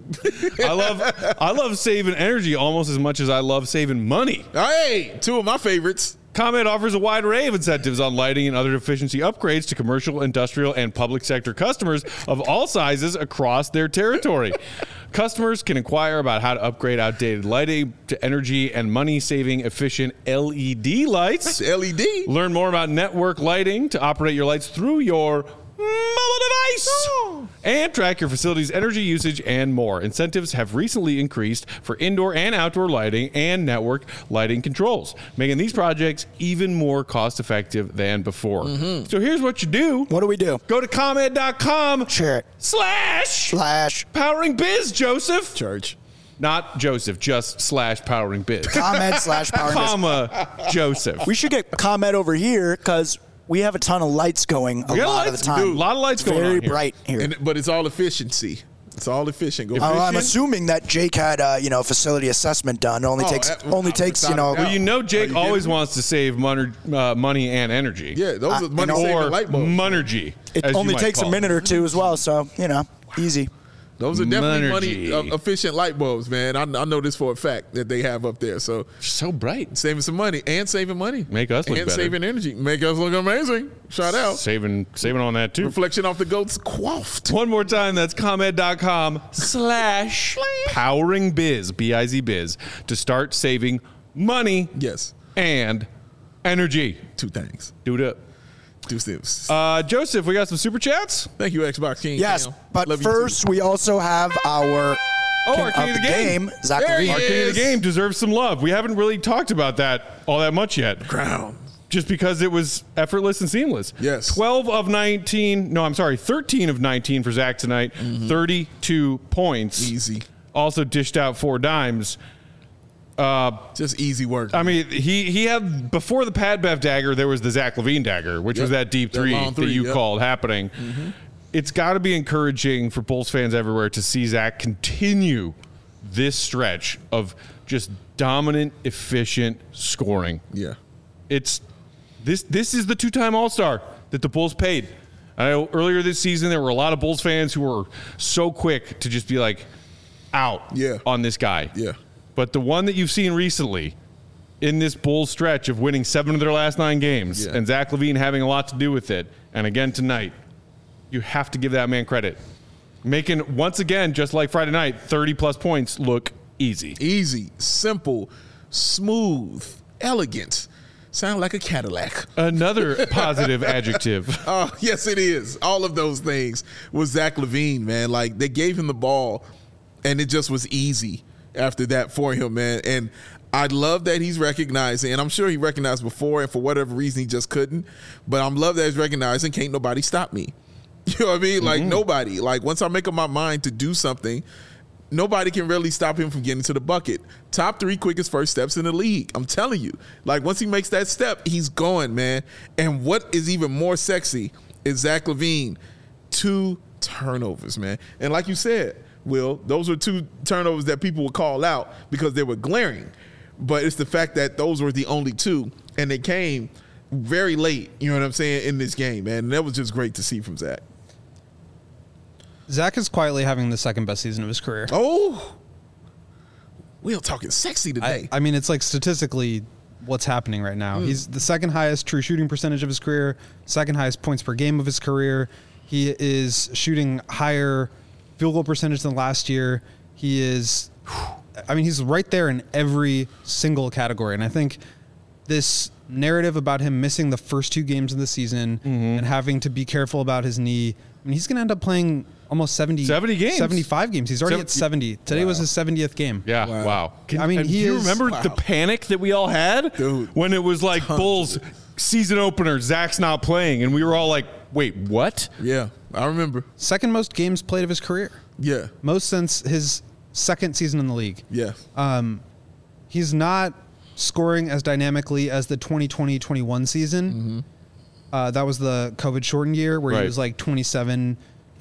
I love saving energy almost as much as I love saving money. Hey, two of my favorites. ComEd offers a wide array of incentives on lighting and other efficiency upgrades to commercial, industrial, and public sector customers of all sizes across their territory. Customers can inquire about how to upgrade outdated lighting to energy and money-saving efficient LED lights. LED. Learn more about network lighting to operate your lights through your mobile device and track your facility's energy usage and more. Incentives have recently increased for indoor and outdoor lighting and network lighting controls, making these projects even more cost-effective than before. So here's what you do. What do we do? Go to ComEd.com Share it. / Powering Biz, Joseph. Church. Not Joseph, just / Powering Biz. ComEd / Powering Biz. Comma Joseph. We should get ComEd over here because we have a ton of lights going a lot of the time. A lot of lights going on Very here. bright here. But it's all efficiency. It's all efficient. Go I'm assuming that Jake had facility assessment done. It only takes Well, you know Jake always wants to save money and energy. Yeah, those are money-saving light bulbs. Monergy. It only takes a minute or two as well, so easy. Those are definitely money-efficient light bulbs, man. I know this for a fact that they have up there. So bright. Saving some money and saving money. Make us look and better. Saving energy. Make us look amazing. Shout out. Saving on that, too. Reflection off the goats quaffed. One more time, that's ComEd.com / Powering Biz, B-I-Z Biz, to start saving money and energy. Two things. Do it up. Joseph, we got some super chats. Thank you, Xbox King. Yes, but first we also have our King of the Game. Zach Levine. Our King of the Game deserves some love. We haven't really talked about that all that much yet. Crown. Just because it was effortless and seamless. Yes. 13 of 19 for Zach tonight. 32 points. Easy. Also dished out 4 dimes. Just easy work. I mean, he had, before the Pat Bev dagger, there was the Zach Levine dagger, which was that deep three that you called happening. It's got to be encouraging for Bulls fans everywhere to see Zach continue this stretch of just dominant, efficient scoring. Yeah. It's this is the 2-time All-Star that the Bulls paid. I know earlier this season there were a lot of Bulls fans who were so quick to just be like out on this guy. Yeah. But the one that you've seen recently in this Bulls stretch of winning 7 of their last 9 games and Zach Levine having a lot to do with it, and again tonight, you have to give that man credit. Making, once again, just like Friday night, 30-plus points look easy. Easy, simple, smooth, elegant. Sound like a Cadillac. Another positive adjective. Yes, it is. All of those things was Zach Levine, man. Like, they gave him the ball, and it just was easy after that for him, man. And I love that he's recognizing, and I'm sure he recognized before, and for whatever reason he just couldn't. But I'm love that he's recognizing, can't nobody stop me. You know what I mean? Like, nobody. Like, once I make up my mind to do something, nobody can really stop him from getting to the bucket. Top 3 quickest first steps in the league. I'm telling you. Like, once he makes that step, he's going, man. And what is even more sexy is Zach Levine. 2 turnovers, man. And like you said, Will, those were 2 turnovers that people would call out because they were glaring. But it's the fact that those were the only 2, and they came very late, you know what I'm saying, in this game, man. And that was just great to see from Zach. Zach is quietly having the second best season of his career. Oh, we're talking sexy today. I mean, it's like statistically what's happening right now. He's the second highest true shooting percentage of his career, second highest points per game of his career. He is shooting higher field goal percentage than last year. He is, I mean, he's right there in every single category. And I think this narrative about him missing the first 2 games of the season and having to be careful about his knee, I mean, he's going to end up playing almost 70 games. 75 games. He's already at 70. Today was his 70th game. Yeah, wow. Do you remember the panic that we all had? Dude, when it was like Bulls season opener, Zach's not playing, and we were all like, wait, what? Yeah, I remember. Second most games played of his career. Yeah. Most since his second season in the league. Yeah. He's not scoring as dynamically as the 2020-21 season. That was the COVID shortened year where he was like 27,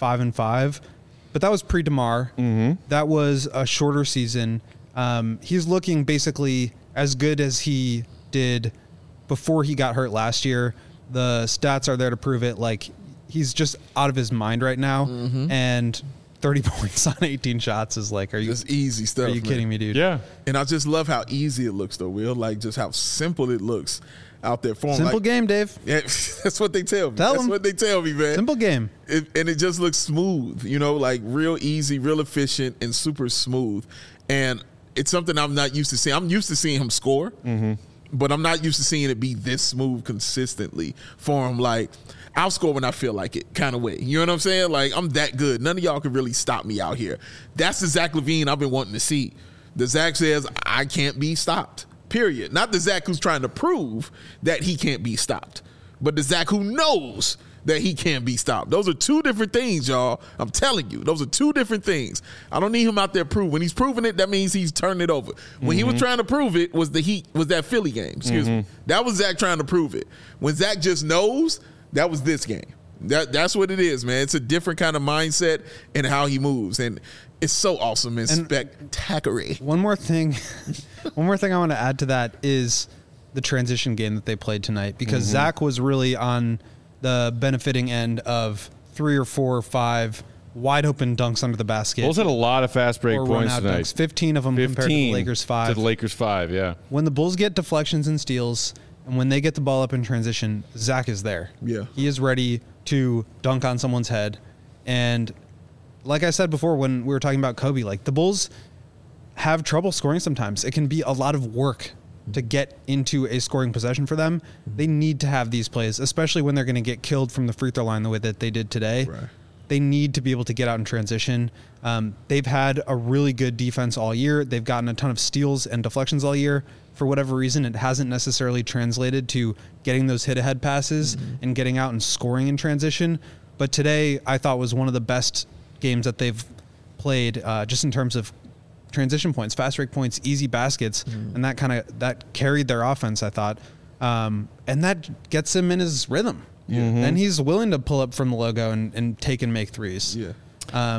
5-5. But that was pre-DeMar. That was a shorter season. He's looking basically as good as he did before he got hurt last year. The stats are there to prove it. Like, he's just out of his mind right now. And 30 points on 18 shots is like, just easy stuff. Are you kidding me, dude? Yeah. And I just love how easy it looks, though, Will. Like, just how simple it looks out there for him. Simple like, game, Dave. Yeah, that's what they tell me. That's what they tell me, man. Simple game. And it just looks smooth, like real easy, real efficient, and super smooth. And it's something I'm not used to seeing. I'm used to seeing him score, but I'm not used to seeing it be this smooth consistently for him. Like, I'll score when I feel like it kind of way. You know what I'm saying? Like, I'm that good. None of y'all can really stop me out here. That's the Zach LaVine I've been wanting to see. The Zach says, I can't be stopped, period. Not the Zach who's trying to prove that he can't be stopped, but the Zach who knows that he can't be stopped. Those are 2 different things, y'all. I'm telling you. Those are 2 different things. I don't need him out there proving. When he's proving it, that means he's turning it over. When he was trying to prove it was that Philly game. Excuse me. That was Zach trying to prove it. When Zach just knows, that was this game. That's what it is, man. It's a different kind of mindset and how he moves. And it's so awesome and spectacular. One more thing I want to add to that is the transition game that they played tonight, because Zach was really on the benefiting end of 3 or 4 or 5 wide open dunks under the basket. Bulls had a lot of fast break points tonight. Dunks, 15 of them compared to the Lakers 5. To the Lakers 5, yeah. When the Bulls get deflections and steals, and when they get the ball up in transition, Zach is there. Yeah. He is ready to dunk on someone's head. And like I said before when we were talking about Kobe, like, the Bulls have trouble scoring sometimes. It can be a lot of work to get into a scoring possession for them. They need to have these plays, especially when they're going to get killed from the free throw line the way that they did today. Right. They need to be able to get out in transition. They've had a really good defense all year. They've gotten a ton of steals and deflections all year. For whatever reason, it hasn't necessarily translated to getting those hit-ahead passes and getting out and scoring in transition. But today, I thought was one of the best games that they've played, just in terms of transition points, fast break points, easy baskets, and that carried their offense, I thought. And that gets him in his rhythm. And he's willing to pull up from the logo and take and make threes. Yeah.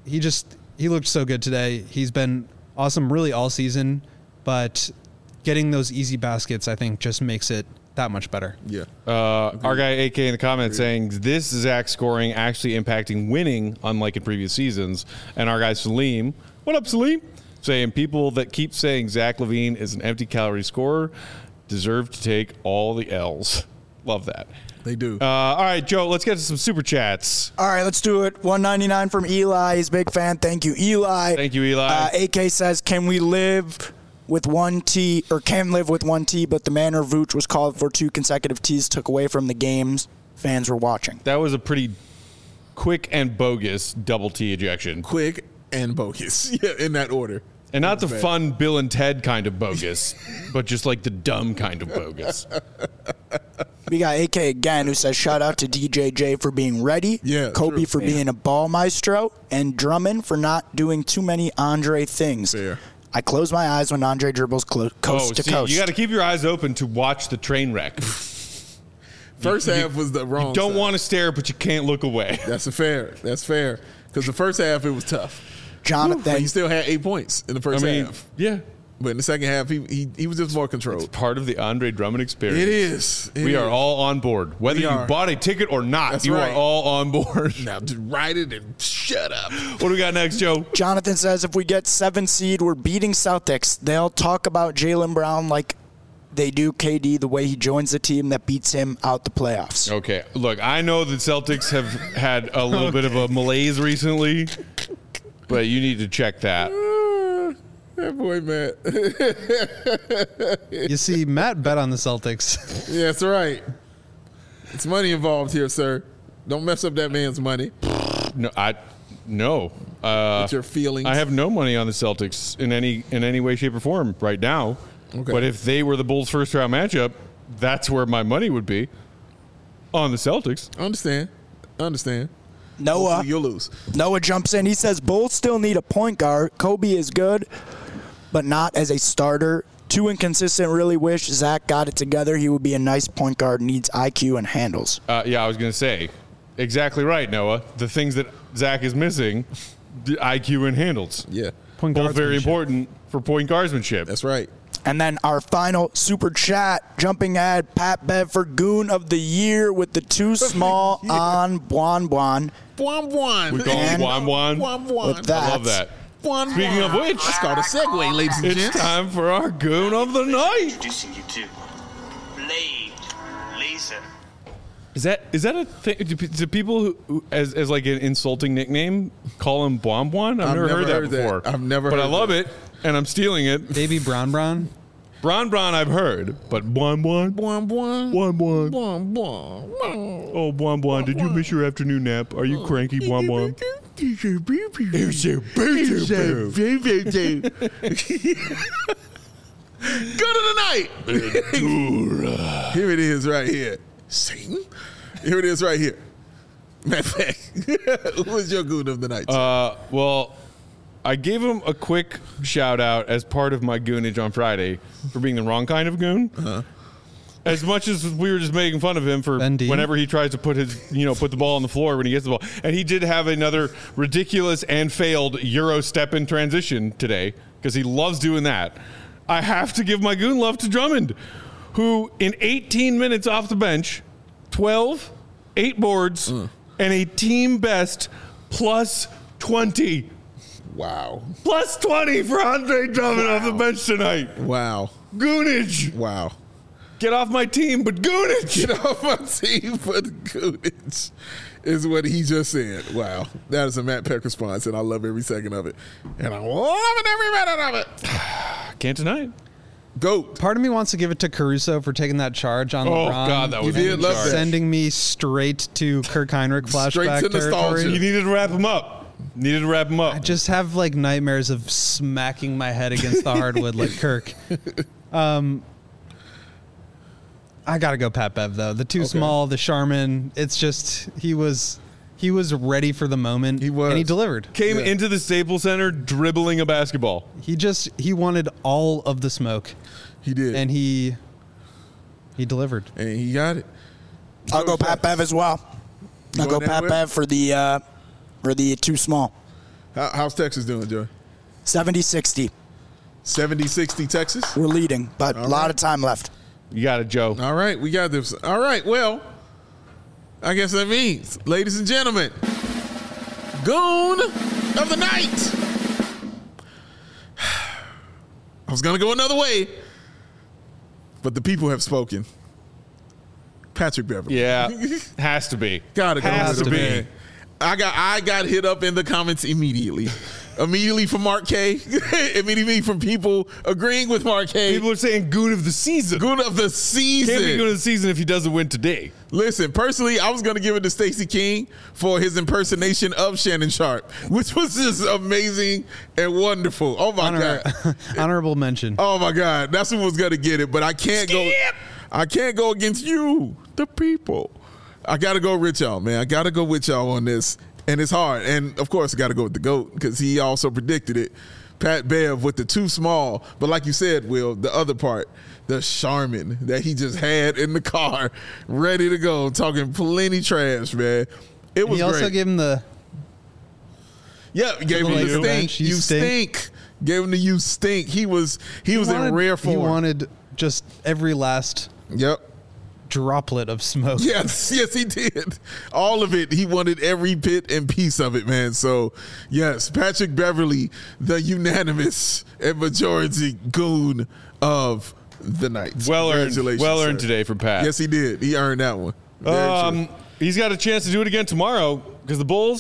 He looked so good today. He's been awesome really all season, but getting those easy baskets, I think, just makes it that much better. Yeah. Our guy AK in the comments saying this Zach scoring actually impacting winning, unlike in previous seasons. And our guy Salim, what up, Salim? Saying people that keep saying Zach LaVine is an empty calorie scorer deserve to take all the L's. Love that. They do. All right, Joe, let's get to some super chats. All right, let's do it. $1.99 from Eli. He's a big fan. Thank you, Eli. Thank you, Eli. AK says, can live with one T, but the manner Vooch was called for 2 consecutive Ts took away from the games fans were watching. That was a pretty quick and bogus double T ejection. Quick and bogus. Yeah, in that order. And not the fun Bill and Ted kind of bogus, but just like the dumb kind of bogus. We got AK again, who says, shout out to DJJ for being ready, Kobe true. for being a ball maestro, and Drummond for not doing too many Andre things. Fair. I close my eyes when Andre dribbles coast to coast. You got to keep your eyes open to watch the train wreck. First half was the wrong You don't side. want to stare, but you can't look away. That's fair. Because the first half, it was tough. Jonathan. But he still had 8 points in the first half. Yeah. But in the second half, he was just more controlled. It's part of the Andre Drummond experience. It is. We are all on board. Whether you bought a ticket or not, That's you right. are all on board. Now, just write it and shut up. What do we got next, Joe? Jonathan says, if we get 7 seed, we're beating Celtics. They'll talk about Jaylen Brown like they do KD, the way he joins the team that beats him out the playoffs. Okay. Look, I know the Celtics have had a little bit of a malaise recently. but you need to check that. That boy, Matt. You see, Matt bet on the Celtics. Yeah, that's right. It's money involved here, sir. Don't mess up that man's money. No. With your feelings. I have no money on the Celtics in any way, shape, or form right now. Okay. But if they were the Bulls' first round matchup, that's where my money would be on the Celtics. I understand. Noah. Hopefully you'll lose. Noah jumps in. He says Bulls still need a point guard. Kobe is good, but not as a starter. Too inconsistent. Really wish Zach got it together. He would be a nice point guard. Needs IQ and handles. Yeah, I was going to say exactly right, Noah. The things that Zach is missing, the IQ and handles. Yeah, Point Both very guardsmanship. important for point guardsmanship. that's right. And then our final super chat, jumping ahead, Pat Bev for Goon of the Year with the too small on Buon Buon. Buon Buon. We call it Buon Buon. Buon Buon. With that. I love that. Buon Speaking Buon. of which, It's called a segue, ladies and it's gents. time for our Goon of the Night. Introducing you to Blade Laser. Is that a thing? Do people who as like an insulting nickname call him Buon Buon? I've never heard that before. I've never but heard I love that. it, and I'm stealing it. Baby Brown Brown. Bron I've heard, but Buon Buon? Buon Buon. Buon Buon. Buon Buon. Oh, Buon Buon, did you miss your afternoon nap? Are you cranky, Buon Buon? Good of the night. Here it is right here. Satan. Here it is right here. Matter of fact, who was your good of the night? Well, I gave him a quick shout out as part of my goonage on Friday for being the wrong kind of goon. As much as we were just making fun of him for Ben Dean? whenever he tries to put the ball on the floor when he gets the ball. And he did have another ridiculous and failed Euro step in transition today because he loves doing that. I have to give my goon love to Drummond, who in 18 minutes off the bench, 12, 8 boards, and a team best plus 20. Wow. Plus 20 for Andre Drummond off the bench tonight. Wow. Goonage. Wow. Get off my team, but goonage. Get off my team for the goodness is what he just said. Wow. That is a Matt Peck response, and I love every second of it. And I'm loving every minute of it. Can't deny it. GOAT. Part of me wants to give it to Caruso for taking that charge on Oh, LeBron. God, that was You did love charge. that. Sending me straight to Kirk Heinrich flashback to nostalgia. You territory. needed to wrap him up. I just have like nightmares of smacking my head against the hardwood like Kirk. I gotta go Pat Bev though. The too small, the Charmin. It's just he was ready for the moment. He was. and he delivered. Came into the Staples Center dribbling a basketball. He wanted all of the smoke, He did. and he delivered. And he got it. I'll go Pat Bev as well. I'll go going that Pat way? Bev for the too small. How's Texas doing, Joey? 70-60. 70-60 Texas? We're leading, but a lot of time left. You got it, Joe. All right, we got this. All right, well, I guess that means, ladies and gentlemen, Goon of the Night. I was going to go another way, but the people have spoken. Patrick Beverley. Yeah, has to be. Gotta go Has with to the be. man. I got hit up in the comments immediately. Immediately from Mark K. Immediately from people agreeing with Mark K. People are saying goon of the season. Goon of the season. Can't be goon of the season if he doesn't win today. Listen, personally, I was going to give it to Stacey King for his impersonation of Shannon Sharp, which was just amazing and wonderful. Oh my God. Honorable mention. Oh my God. That's who was going to get it, but I can't go. I can't go against you, the people. I got to go with y'all, man. I got to go with y'all on this. And it's hard. And of course, I got to go with the GOAT because he also predicted it. Pat Bev with the too small. But like you said, Will, the other part, the Charmin that he just had in the car, ready to go, talking plenty trash, man. It was He also great. gave him the Yeah, he gave him Like the the stink. bench, You you stink. Gave him the you stink. He was in rare form. He wanted just every last Yep. droplet of smoke. Yes, he did. All of it. He wanted every bit and piece of it, man. So, yes, Patrick Beverley, the unanimous and majority goon of the night. Well earned. Congratulations, Well earned sir. today for Pat. Yes, he did. He earned that one. Very true. He's got a chance to do it again tomorrow because the Bulls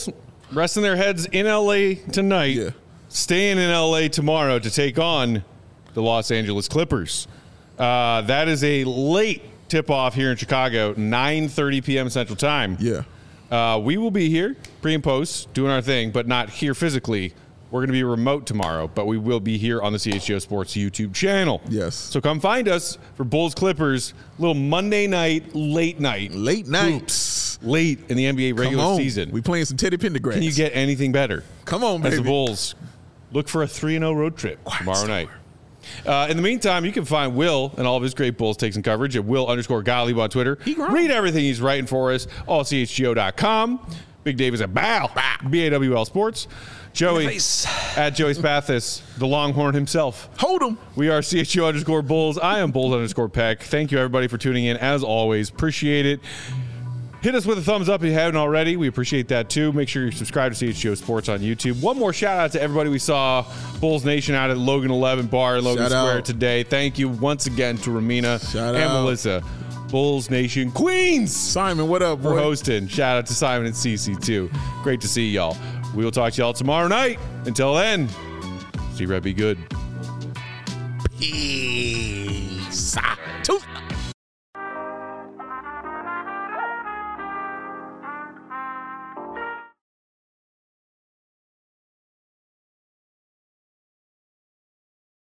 resting their heads in LA tonight, Yeah. staying in LA tomorrow to take on the Los Angeles Clippers. That is a late tip-off here in Chicago, 9:30 p.m. Central Time. Yeah. We will be here pre and post doing our thing, but not here physically. We're going to be remote tomorrow, but we will be here on the CHGO Sports YouTube channel. Yes. So come find us for Bulls Clippers, little Monday night, late night. Late night. Hoops. Late in the NBA regular Come on. season. We playing some Teddy Pendergrass. Can you get anything better? Come on, As the baby. Bulls look for a 3-0 road trip tomorrow night. In the meantime, you can find Will and all of his great Bulls takes and coverage at Will_Gottlieb on Twitter. Read everything he's writing for us, allchgo.com. Big Dave is at BAWL Sports. Joey at Joey Spathis, the Longhorn himself. Hold him. We are CHGO_Bulls. I am Bulls_Peck. Thank you, everybody, for tuning in. As always, appreciate it. Hit us with a thumbs up if you haven't already. We appreciate that, too. Make sure you subscribe to CHGO Sports on YouTube. One more shout-out to everybody we saw Bulls Nation out at Logan 11 Bar in Logan Shout Square out. today. Thank you once again to Ramina Shout and out. Melissa. Bulls Nation Queens Simon, what up, for boy? hosting. Shout out to Simon and Cece, too. Great to see y'all. We will talk to y'all tomorrow night. Until then, see Red be good. Peace. Tooth.